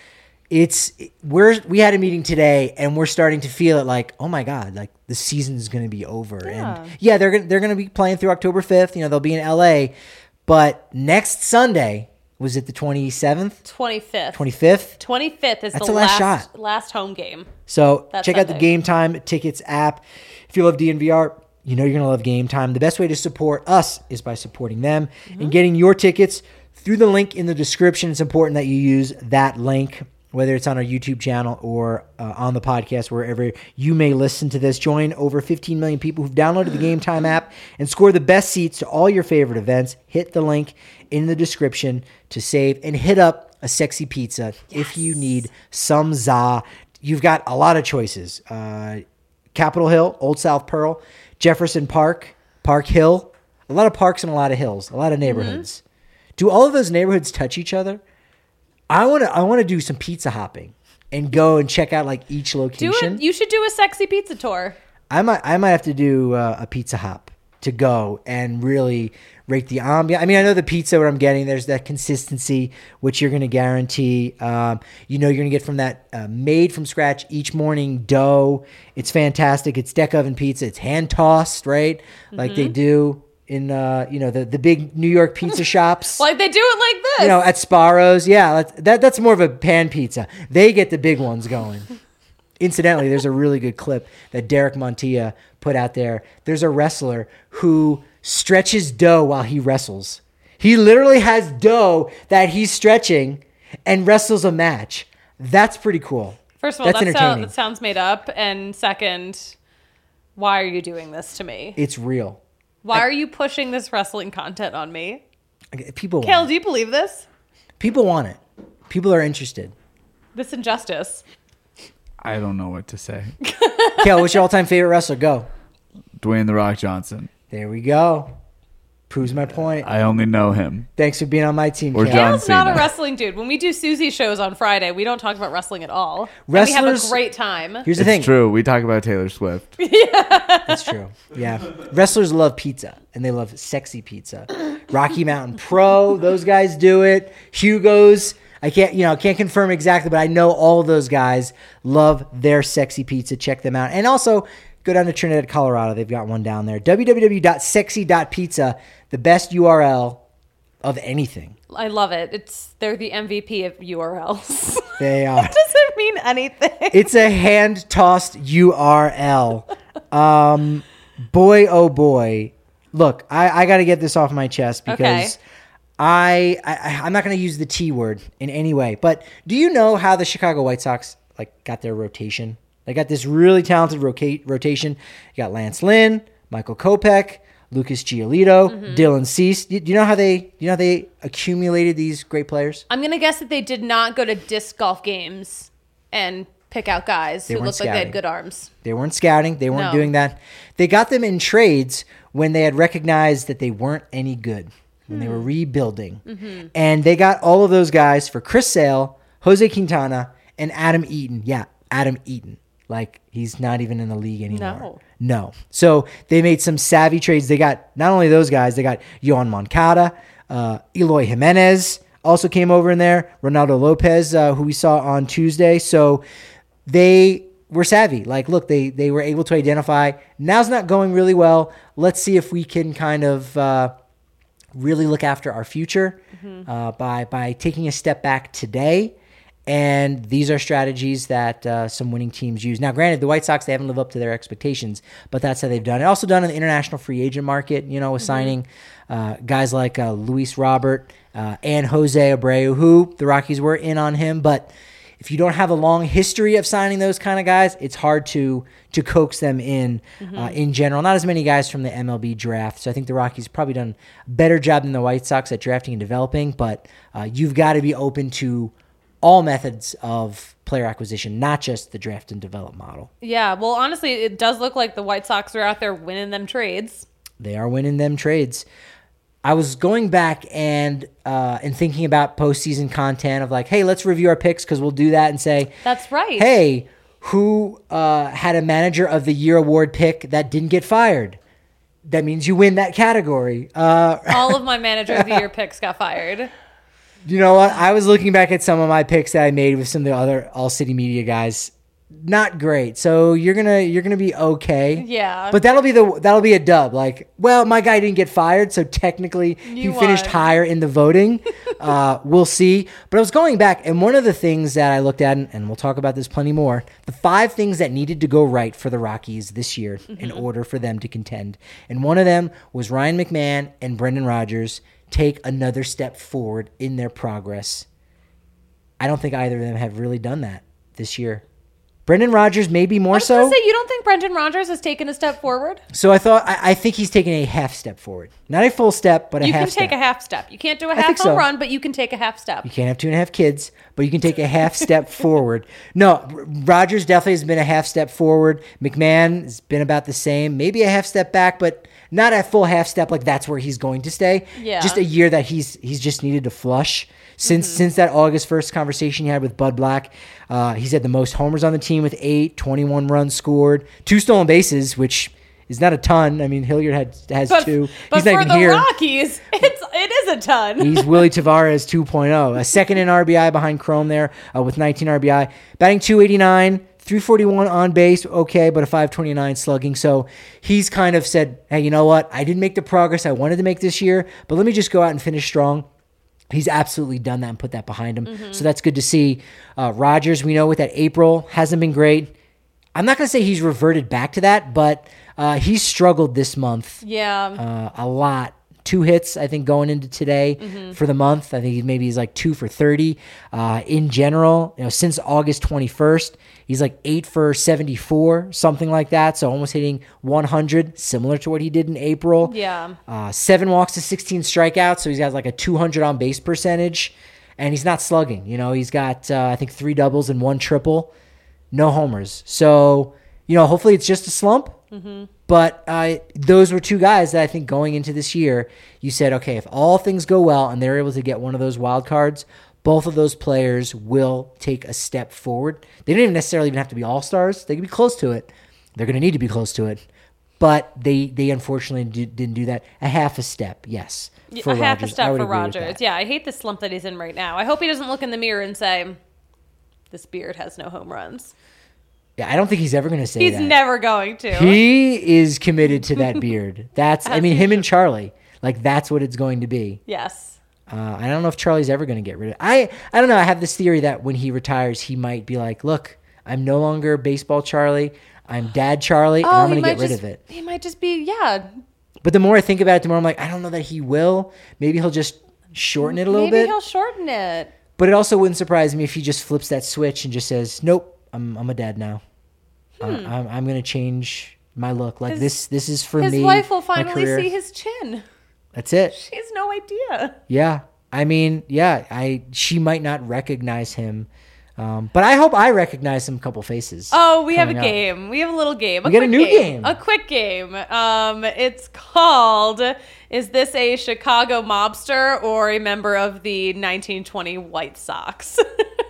we had a meeting today and we're starting to feel it like, oh my God, like the season's going to be over.
Yeah.
And yeah, they're going to be playing through October 5th. They'll be in LA, but next Sunday. Was it the 27th?
25th.
25th?
25th is
That's
the
the last shot.
last home game.
So
That's
check out the
Sunday.
Game Time Tickets app. If you love DNVR, you're going to love Game Time. The best way to support us is by supporting them and getting your tickets through the link in the description. It's important that you use that link, whether it's on our YouTube channel or on the podcast, wherever you may listen to this. Join over 15 million people who've downloaded the Game Time app and score the best seats to all your favorite events. Hit the link in the description to save and hit up a sexy pizza if you need some za. You've got a lot of choices. Capitol Hill, Old South Pearl, Jefferson Park, Park Hill. A lot of parks and a lot of hills, a lot of neighborhoods. Do all of those neighborhoods touch each other? I want to do some pizza hopping and go and check out like each location.
You should do a sexy pizza tour.
I might have to do a pizza hop to go and really rate the ambiance. I mean, I know the pizza what I'm getting, there's that consistency, which you're going to guarantee. You're going to get from that made from scratch each morning dough. It's fantastic. It's deck oven pizza. It's hand tossed, right? Like they do in the big New York pizza shops.
Like they do it like this.
At Sparrow's. Yeah, that's more of a pan pizza. They get the big ones going. Incidentally, there's a really good clip that Derek Montilla put out there. There's a wrestler who stretches dough while he wrestles. He literally has dough that he's stretching and wrestles a match. That's pretty cool.
First of all,
that's entertaining.
that sounds made up. And second, why are you doing this to me?
It's real.
Why are you pushing this wrestling content on me?
People
Kale,
want
do you believe this?
it. People want it. People are interested.
This injustice.
I don't know what to say.
Kel, what's your all-time favorite wrestler? Go.
Dwayne The Rock Johnson.
There we go. Proves my point.
I only know him.
Thanks for being on my team,
Or
Kel.
John
Cal's not a
Cena.
wrestling dude. When we do Susie shows on Friday, we don't talk about wrestling at all. And we
Wrestlers-
have a great time.
Here's the
It's
thing.
true. We talk about Taylor Swift.
That's true. Yeah. Wrestlers love pizza, and they love sexy pizza. Rocky Mountain Pro, those guys do it. Hugo's, I can't confirm exactly, but I know all of those guys love their sexy pizza. Check them out. And also, go down to Trinidad, Colorado. They've got one down there. www.sexy.pizza, the best URL of anything.
I love it. They're the MVP of URLs.
They are.
It doesn't mean anything.
It's a hand-tossed URL. Boy, oh boy. Look, I got to get this off my chest because
Okay.
I'm not going to use the T word in any way. But do you know how the Chicago White Sox got their rotation? They got this really talented rotation. You got Lance Lynn, Michael Kopech, Lucas Giolito, Dylan Cease. Do you know how they accumulated these great players?
I'm going to guess that they did not go to disc golf games and pick out guys who
weren't
looked like they
scouting.
had good arms.
They weren't scouting. They weren't
No.
doing that. They got them in trades when they had recognized that they weren't any good, when they were rebuilding. And they got all of those guys for Chris Sale, Jose Quintana, and Adam Eaton. Yeah, Adam Eaton. Like, he's not even in the league anymore. No. So they made some savvy trades. They got not only those guys, they got Yohan Moncada, Eloy Jimenez also came over in there, Ronaldo Lopez, who we saw on Tuesday. So they were savvy. Like, look, they were able to identify, now's not going really well. Let's see if we can kind of really look after our future by taking a step back today. And these are strategies that some winning teams use. Now, granted, the White Sox, they haven't lived up to their expectations, but that's how they've done it. Also done in the international free agent market, with signing guys like Luis Robert and Jose Abreu, who the Rockies were in on him. But if you don't have a long history of signing those kind of guys, it's hard to coax them in general. Not as many guys from the MLB draft. So I think the Rockies probably done a better job than the White Sox at drafting and developing. But you've got to be open to all methods of player acquisition, not just the draft and develop model.
Yeah, well, honestly, it does look like the White Sox are out there winning them trades.
They are winning them trades. I was going back and thinking about postseason content of like, hey, let's review our picks because we'll do that and say,
That's right.
hey, who had a manager of the year award pick that didn't get fired? That means you win that category.
All of my manager of the year picks got fired.
You know what? I was looking back at some of my picks that I made with some of the other All City Media guys. Not great. So you're gonna be okay.
Yeah.
But that'll be a dub. Like, well, my guy didn't get fired, so technically he
You
finished
won.
higher in the voting. We'll see. But I was going back, and one of the things that I looked at, and we'll talk about this plenty more, the 5 things that needed to go right for the Rockies this year in order for them to contend. And one of them was Ryan McMahon and Brendan Rodgers take another step forward in their progress. I don't think either of them have really done that this year. Brendan Rodgers maybe more
I was going
so.
to say, you don't think Brendan Rodgers has taken a step forward?
So I think he's taken a half step forward. Not a full step, but a
You
half
can
step.
take a half step. You can't do a
think
half
so.
home run, but you can take a half step.
You can't have 2.5 kids, but you can take a half step forward. No, Rodgers definitely has been a half step forward. McMahon has been about the same, maybe a half step back, but not a full half step like that's where he's going to stay.
Yeah.
Just a year that he's just needed to flush. Since that August 1st conversation he had with Bud Black, he's had the most homers on the team with 8, 21 runs scored, 2 stolen bases, which is not a ton. I mean, Hilliard has 2.
But
He's
for
not even
the
here.
Rockies, it is a ton.
He's Willie Tavares 2.0. A second in RBI behind Chrome there with 19 RBI. Batting 289, 341 on base, okay, but a 529 slugging. So he's kind of said, hey, you know what? I didn't make the progress I wanted to make this year, but let me just go out and finish strong. He's absolutely done that and put that behind him. So that's good to see. Rodgers, we know with that April, hasn't been great. I'm not going to say he's reverted back to that, but he's struggled this month
Yeah.
a lot. 2 hits, I think, going into today for the month. I think he's like 2 for 30. In general, since August 21st, he's like 8 for 74, something like that. So almost hitting 100, similar to what he did in April.
Yeah.
7 walks to 16 strikeouts. So he's got like a 200 on base percentage, and he's not slugging. He's got I think 3 doubles and 1 triple. no homers. So, hopefully it's just a slump. Mm-hmm. But those were two guys that I think going into this year, you said, okay, if all things go well and they're able to get one of those wild cards, both of those players will take a step forward. They don't even necessarily have to be all-stars. They can be close to it. They're going to need to be close to it. But they unfortunately didn't do that. A half a step, yes.
A half a step for Rodgers. Yeah, I hate the slump that he's in right now. I hope he doesn't look in the mirror and say, this beard has no home runs.
Yeah, I don't think he's ever going to say that.
He's never going to.
He is committed to that beard. Him and Charlie. Like, that's what it's going to be.
Yes.
I don't know if Charlie's ever going to get rid of it. I don't know. I have this theory that when he retires, he might be like, look, I'm no longer baseball Charlie. I'm dad Charlie, and I'm going to get rid of it.
He might just be, yeah.
But the more I think about it, the more I'm like, I don't know that he will. Maybe he'll just shorten it a little bit.
Maybe he'll shorten it.
But it also wouldn't surprise me if he just flips that switch and just says, nope, I'm a dad now. I'm going to change my look. Like, this is for me.
His wife will finally see his chin.
That's it.
She has no idea.
Yeah. I mean, yeah, she might not recognize him. But I hope I recognize some couple faces.
Oh, we have a game. We have a little game.
We got a new game.
A quick game. It's called, is this a Chicago mobster or a member of the 1920 White Sox?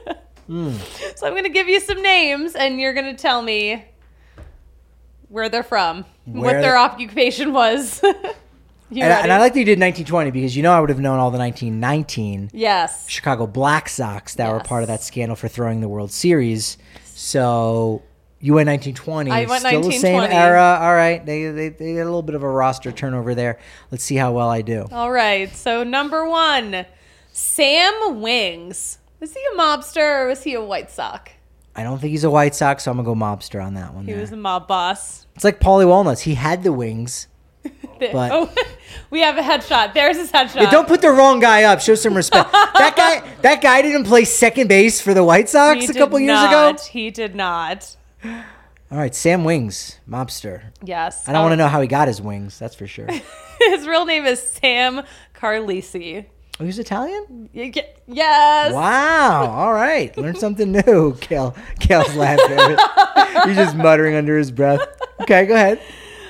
So I'm going to give you some names, and you're going to tell me where they're from, what their occupation was. And
I like that you did 1920 because I would have known all the 1919 Chicago Black Sox that were part of that scandal for throwing the World Series. So you went 1920.
I went
still
1920.
The same era. All right. They had a little bit of a roster turnover there. Let's see how well I do.
All right. So number 1, Sam Wings. Was he a mobster or was he a White Sox?
I don't think he's a White Sox, so I'm going to go mobster on that one.
He was a mob boss.
It's like Paulie Walnuts. He had the wings. But
we have a headshot. There's his headshot.
Yeah, don't put the wrong guy up. Show some respect. That guy didn't play second base for the White Sox a couple years ago.
He did not.
All right, Sam Wings, mobster.
Yes.
I don't want to know how he got his wings. That's for sure.
His real name is Sam Carlisi.
Oh, he's Italian?
Yes.
Wow. All right. Learn something new. Kale's laughing. He's just muttering under his breath. Okay, go ahead.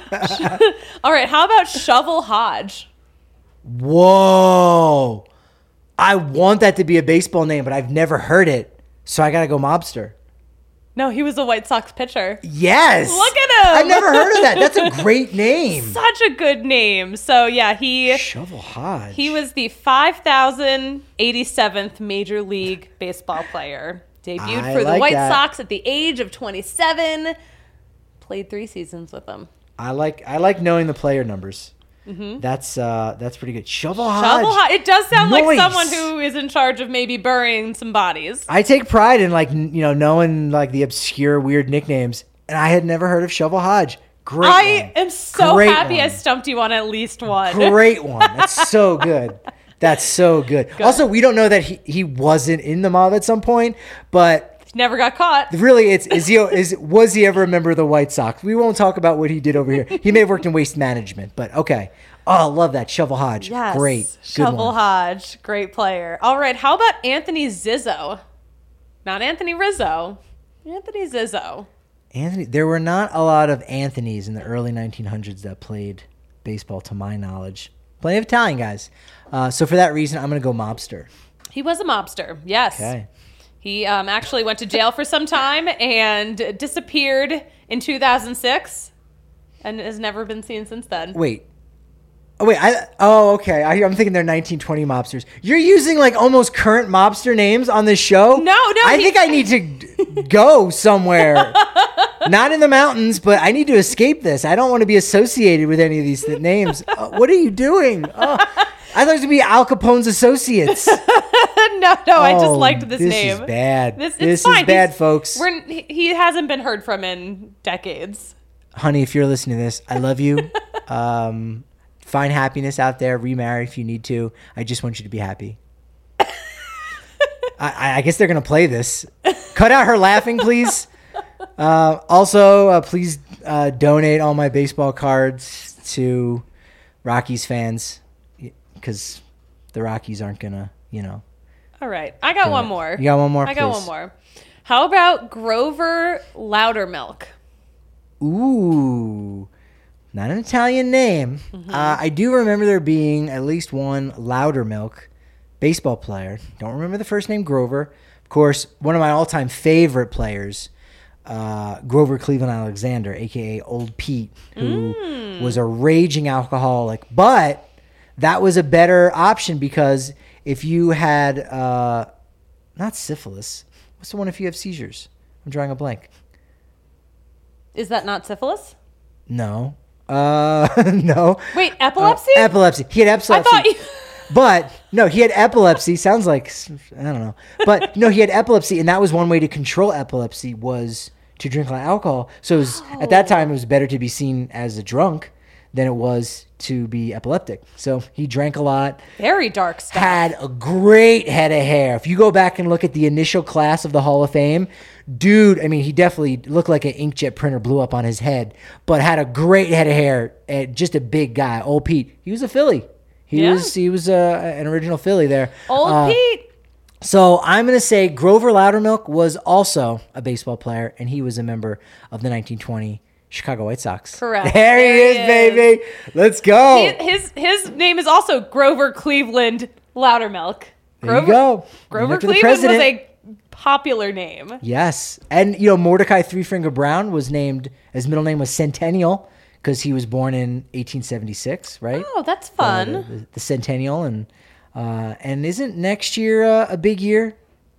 All right. How about Shovel Hodge?
Whoa. I want that to be a baseball name, but I've never heard it. So I got to go mobster.
No, he was a White Sox pitcher.
Yes.
Look at him.
I've never heard of that. That's a great name.
Such a good name. So, yeah,
Shovel Hodge.
He was the 5,087th Major League Baseball player. Debuted for the White Sox at the age of 27. Played 3 seasons with them.
I like knowing the player numbers. Mm-hmm. That's pretty good. Shovel Hodge.
It does sound like someone who is in charge of maybe burying some bodies.
I take pride in knowing like the obscure weird nicknames, and I had never heard of Shovel Hodge. Great.
I am so happy I stumped you on at least one.
Great one. That's so good. That's so good. Also, we don't know that he wasn't in the mob at some point, but
never got caught.
Really, was he ever a member of the White Sox? We won't talk about what he did over here. He may have worked in waste management, but okay. Oh, I love that. Shovel Hodge.
Yes.
Great.
Shovel Hodge. Great player. All right. How about Anthony Zizzo? Not Anthony Rizzo. Anthony Zizzo.
There were not a lot of Anthonys in the early 1900s that played baseball, to my knowledge. Plenty of Italian guys. So for that reason, I'm going to go mobster.
He was a mobster. Yes.
Okay.
He actually went to jail for some time and disappeared in 2006 and has never been seen since then.
Wait. Okay. I'm thinking they're 1920 mobsters. You're using like almost current mobster names on this show?
No.
I think I need to go somewhere. Not in the mountains, but I need to escape this. I don't want to be associated with any of these names. What are you doing? I thought it was going to be Al Capone's associates.
No, I just liked this name.
This is bad. This is
fine.
Bad, folks.
He hasn't been heard from in decades.
Honey, if you're listening to this, I love you. Find happiness out there. Remarry if you need to. I just want you to be happy. I guess they're going to play this. Cut out her laughing, please. Also, please donate all my baseball cards to Rockies fans because the Rockies aren't going to,
All right. I got one more.
You got one more?
I got one more. How about Grover Loudermilk?
Ooh, not an Italian name. I do remember there being at least one Loudermilk baseball player. Don't remember the first name, Grover. Of course, one of my all-time favorite players, Grover Cleveland Alexander, a.k.a. Old Pete, who was a raging alcoholic. But that was a better option because if you had, not syphilis, what's the one if you have seizures? I'm drawing a blank.
Is that not syphilis?
No. No.
Wait, epilepsy?
Epilepsy. He had epilepsy.
I thought you...
But no, he had epilepsy. Sounds like, I don't know. But no, he had epilepsy, and that was one way to control epilepsy was to drink a lot of alcohol. So it was, at that time, it was better to be seen as a drunk than it was to be epileptic. So he drank a lot.
Very dark stuff.
Had a great head of hair. If you go back and look at the initial class of the Hall of Fame, dude, I mean, he definitely looked like an inkjet printer blew up on his head, but had a great head of hair. Just a big guy. Old Pete. He was a Philly. He was an original Philly there.
Old Pete.
So I'm going to say Grover Loudermilk was also a baseball player, and he was a member of the 1920 Chicago White Sox.
Correct.
There he is, baby. Let's go.
His name is also Grover Cleveland Loudermilk.
There you go.
Grover
After the
Cleveland was
president.
a popular name.
Yes. And, Mordecai Three Finger Brown was named, his middle name was Centennial because he was born in 1876, right?
Oh, that's fun.
The Centennial. And isn't next year a big year?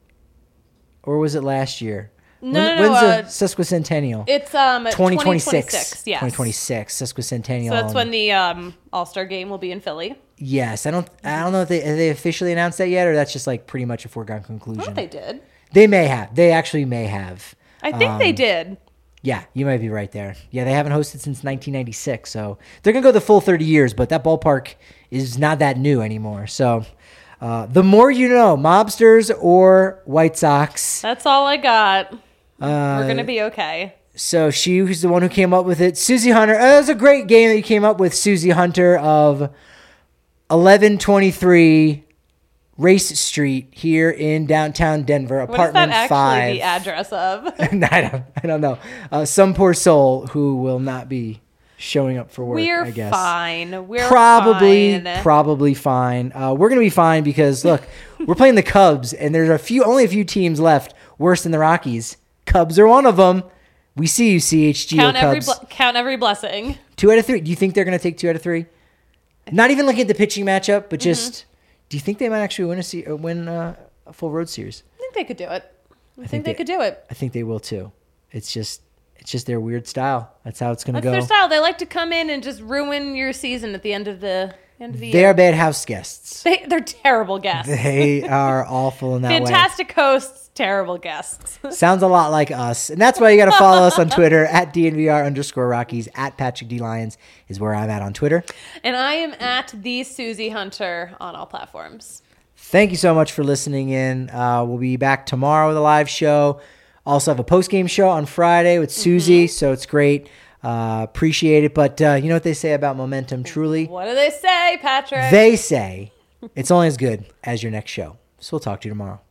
Or was it last year?
No.
When's the sesquicentennial?
It's
2026.
2026. Yes.
2026 sesquicentennial.
So that's when the All-Star game will be in Philly.
Yes, I don't know if they officially announced that yet, or that's just like pretty much a foregone conclusion.
I thought they did.
They may have. They actually may have.
I think they did.
Yeah, you might be right there. Yeah, they haven't hosted since 1996, so they're gonna go the full 30 years. But that ballpark is not that new anymore. So, the more you know, Mobsters or White Sox.
That's all I got. We're gonna be okay.
So she was the one who came up with it. Susie Hunter. That was a great game that you came up with, Susie Hunter, of 1123 Race Street here in downtown Denver, apartment 5.
What is that actually the address of?
I don't know. Some poor soul who will not be showing up for work, I guess.
We're
probably fine. We're going to be fine because, look, we're playing the Cubs, and there's only a few teams left worse than the Rockies. Cubs are one of them. We see you, CHGO Cubs.
Count every blessing.
2 out of 3. Do you think they're going to take 2 out of 3? Not even looking at the pitching matchup, but just... Do you think they might actually win a full road series?
I think they could do it. I think they could do it.
I think they will too. It's just their weird style. That's how it's going to go.
That's their style. They like to come in and just ruin your season at the end of the year.
They are bad house guests.
They're terrible guests.
They are awful in that way.
Fantastic hosts, terrible guests.
Sounds a lot like us. And that's why you got to follow us on Twitter at DNVR_Rockies, at Patrick D. Lyons is where I'm at on Twitter.
And I am at the Susie Hunter on all platforms.
Thank you so much for listening in. We'll be back tomorrow with a live show. Also have a post-game show on Friday with Susie, so it's great. Appreciate it. But you know what they say about momentum, truly?
What do they say, Patrick?
They say it's only as good as your next show. So we'll talk to you tomorrow.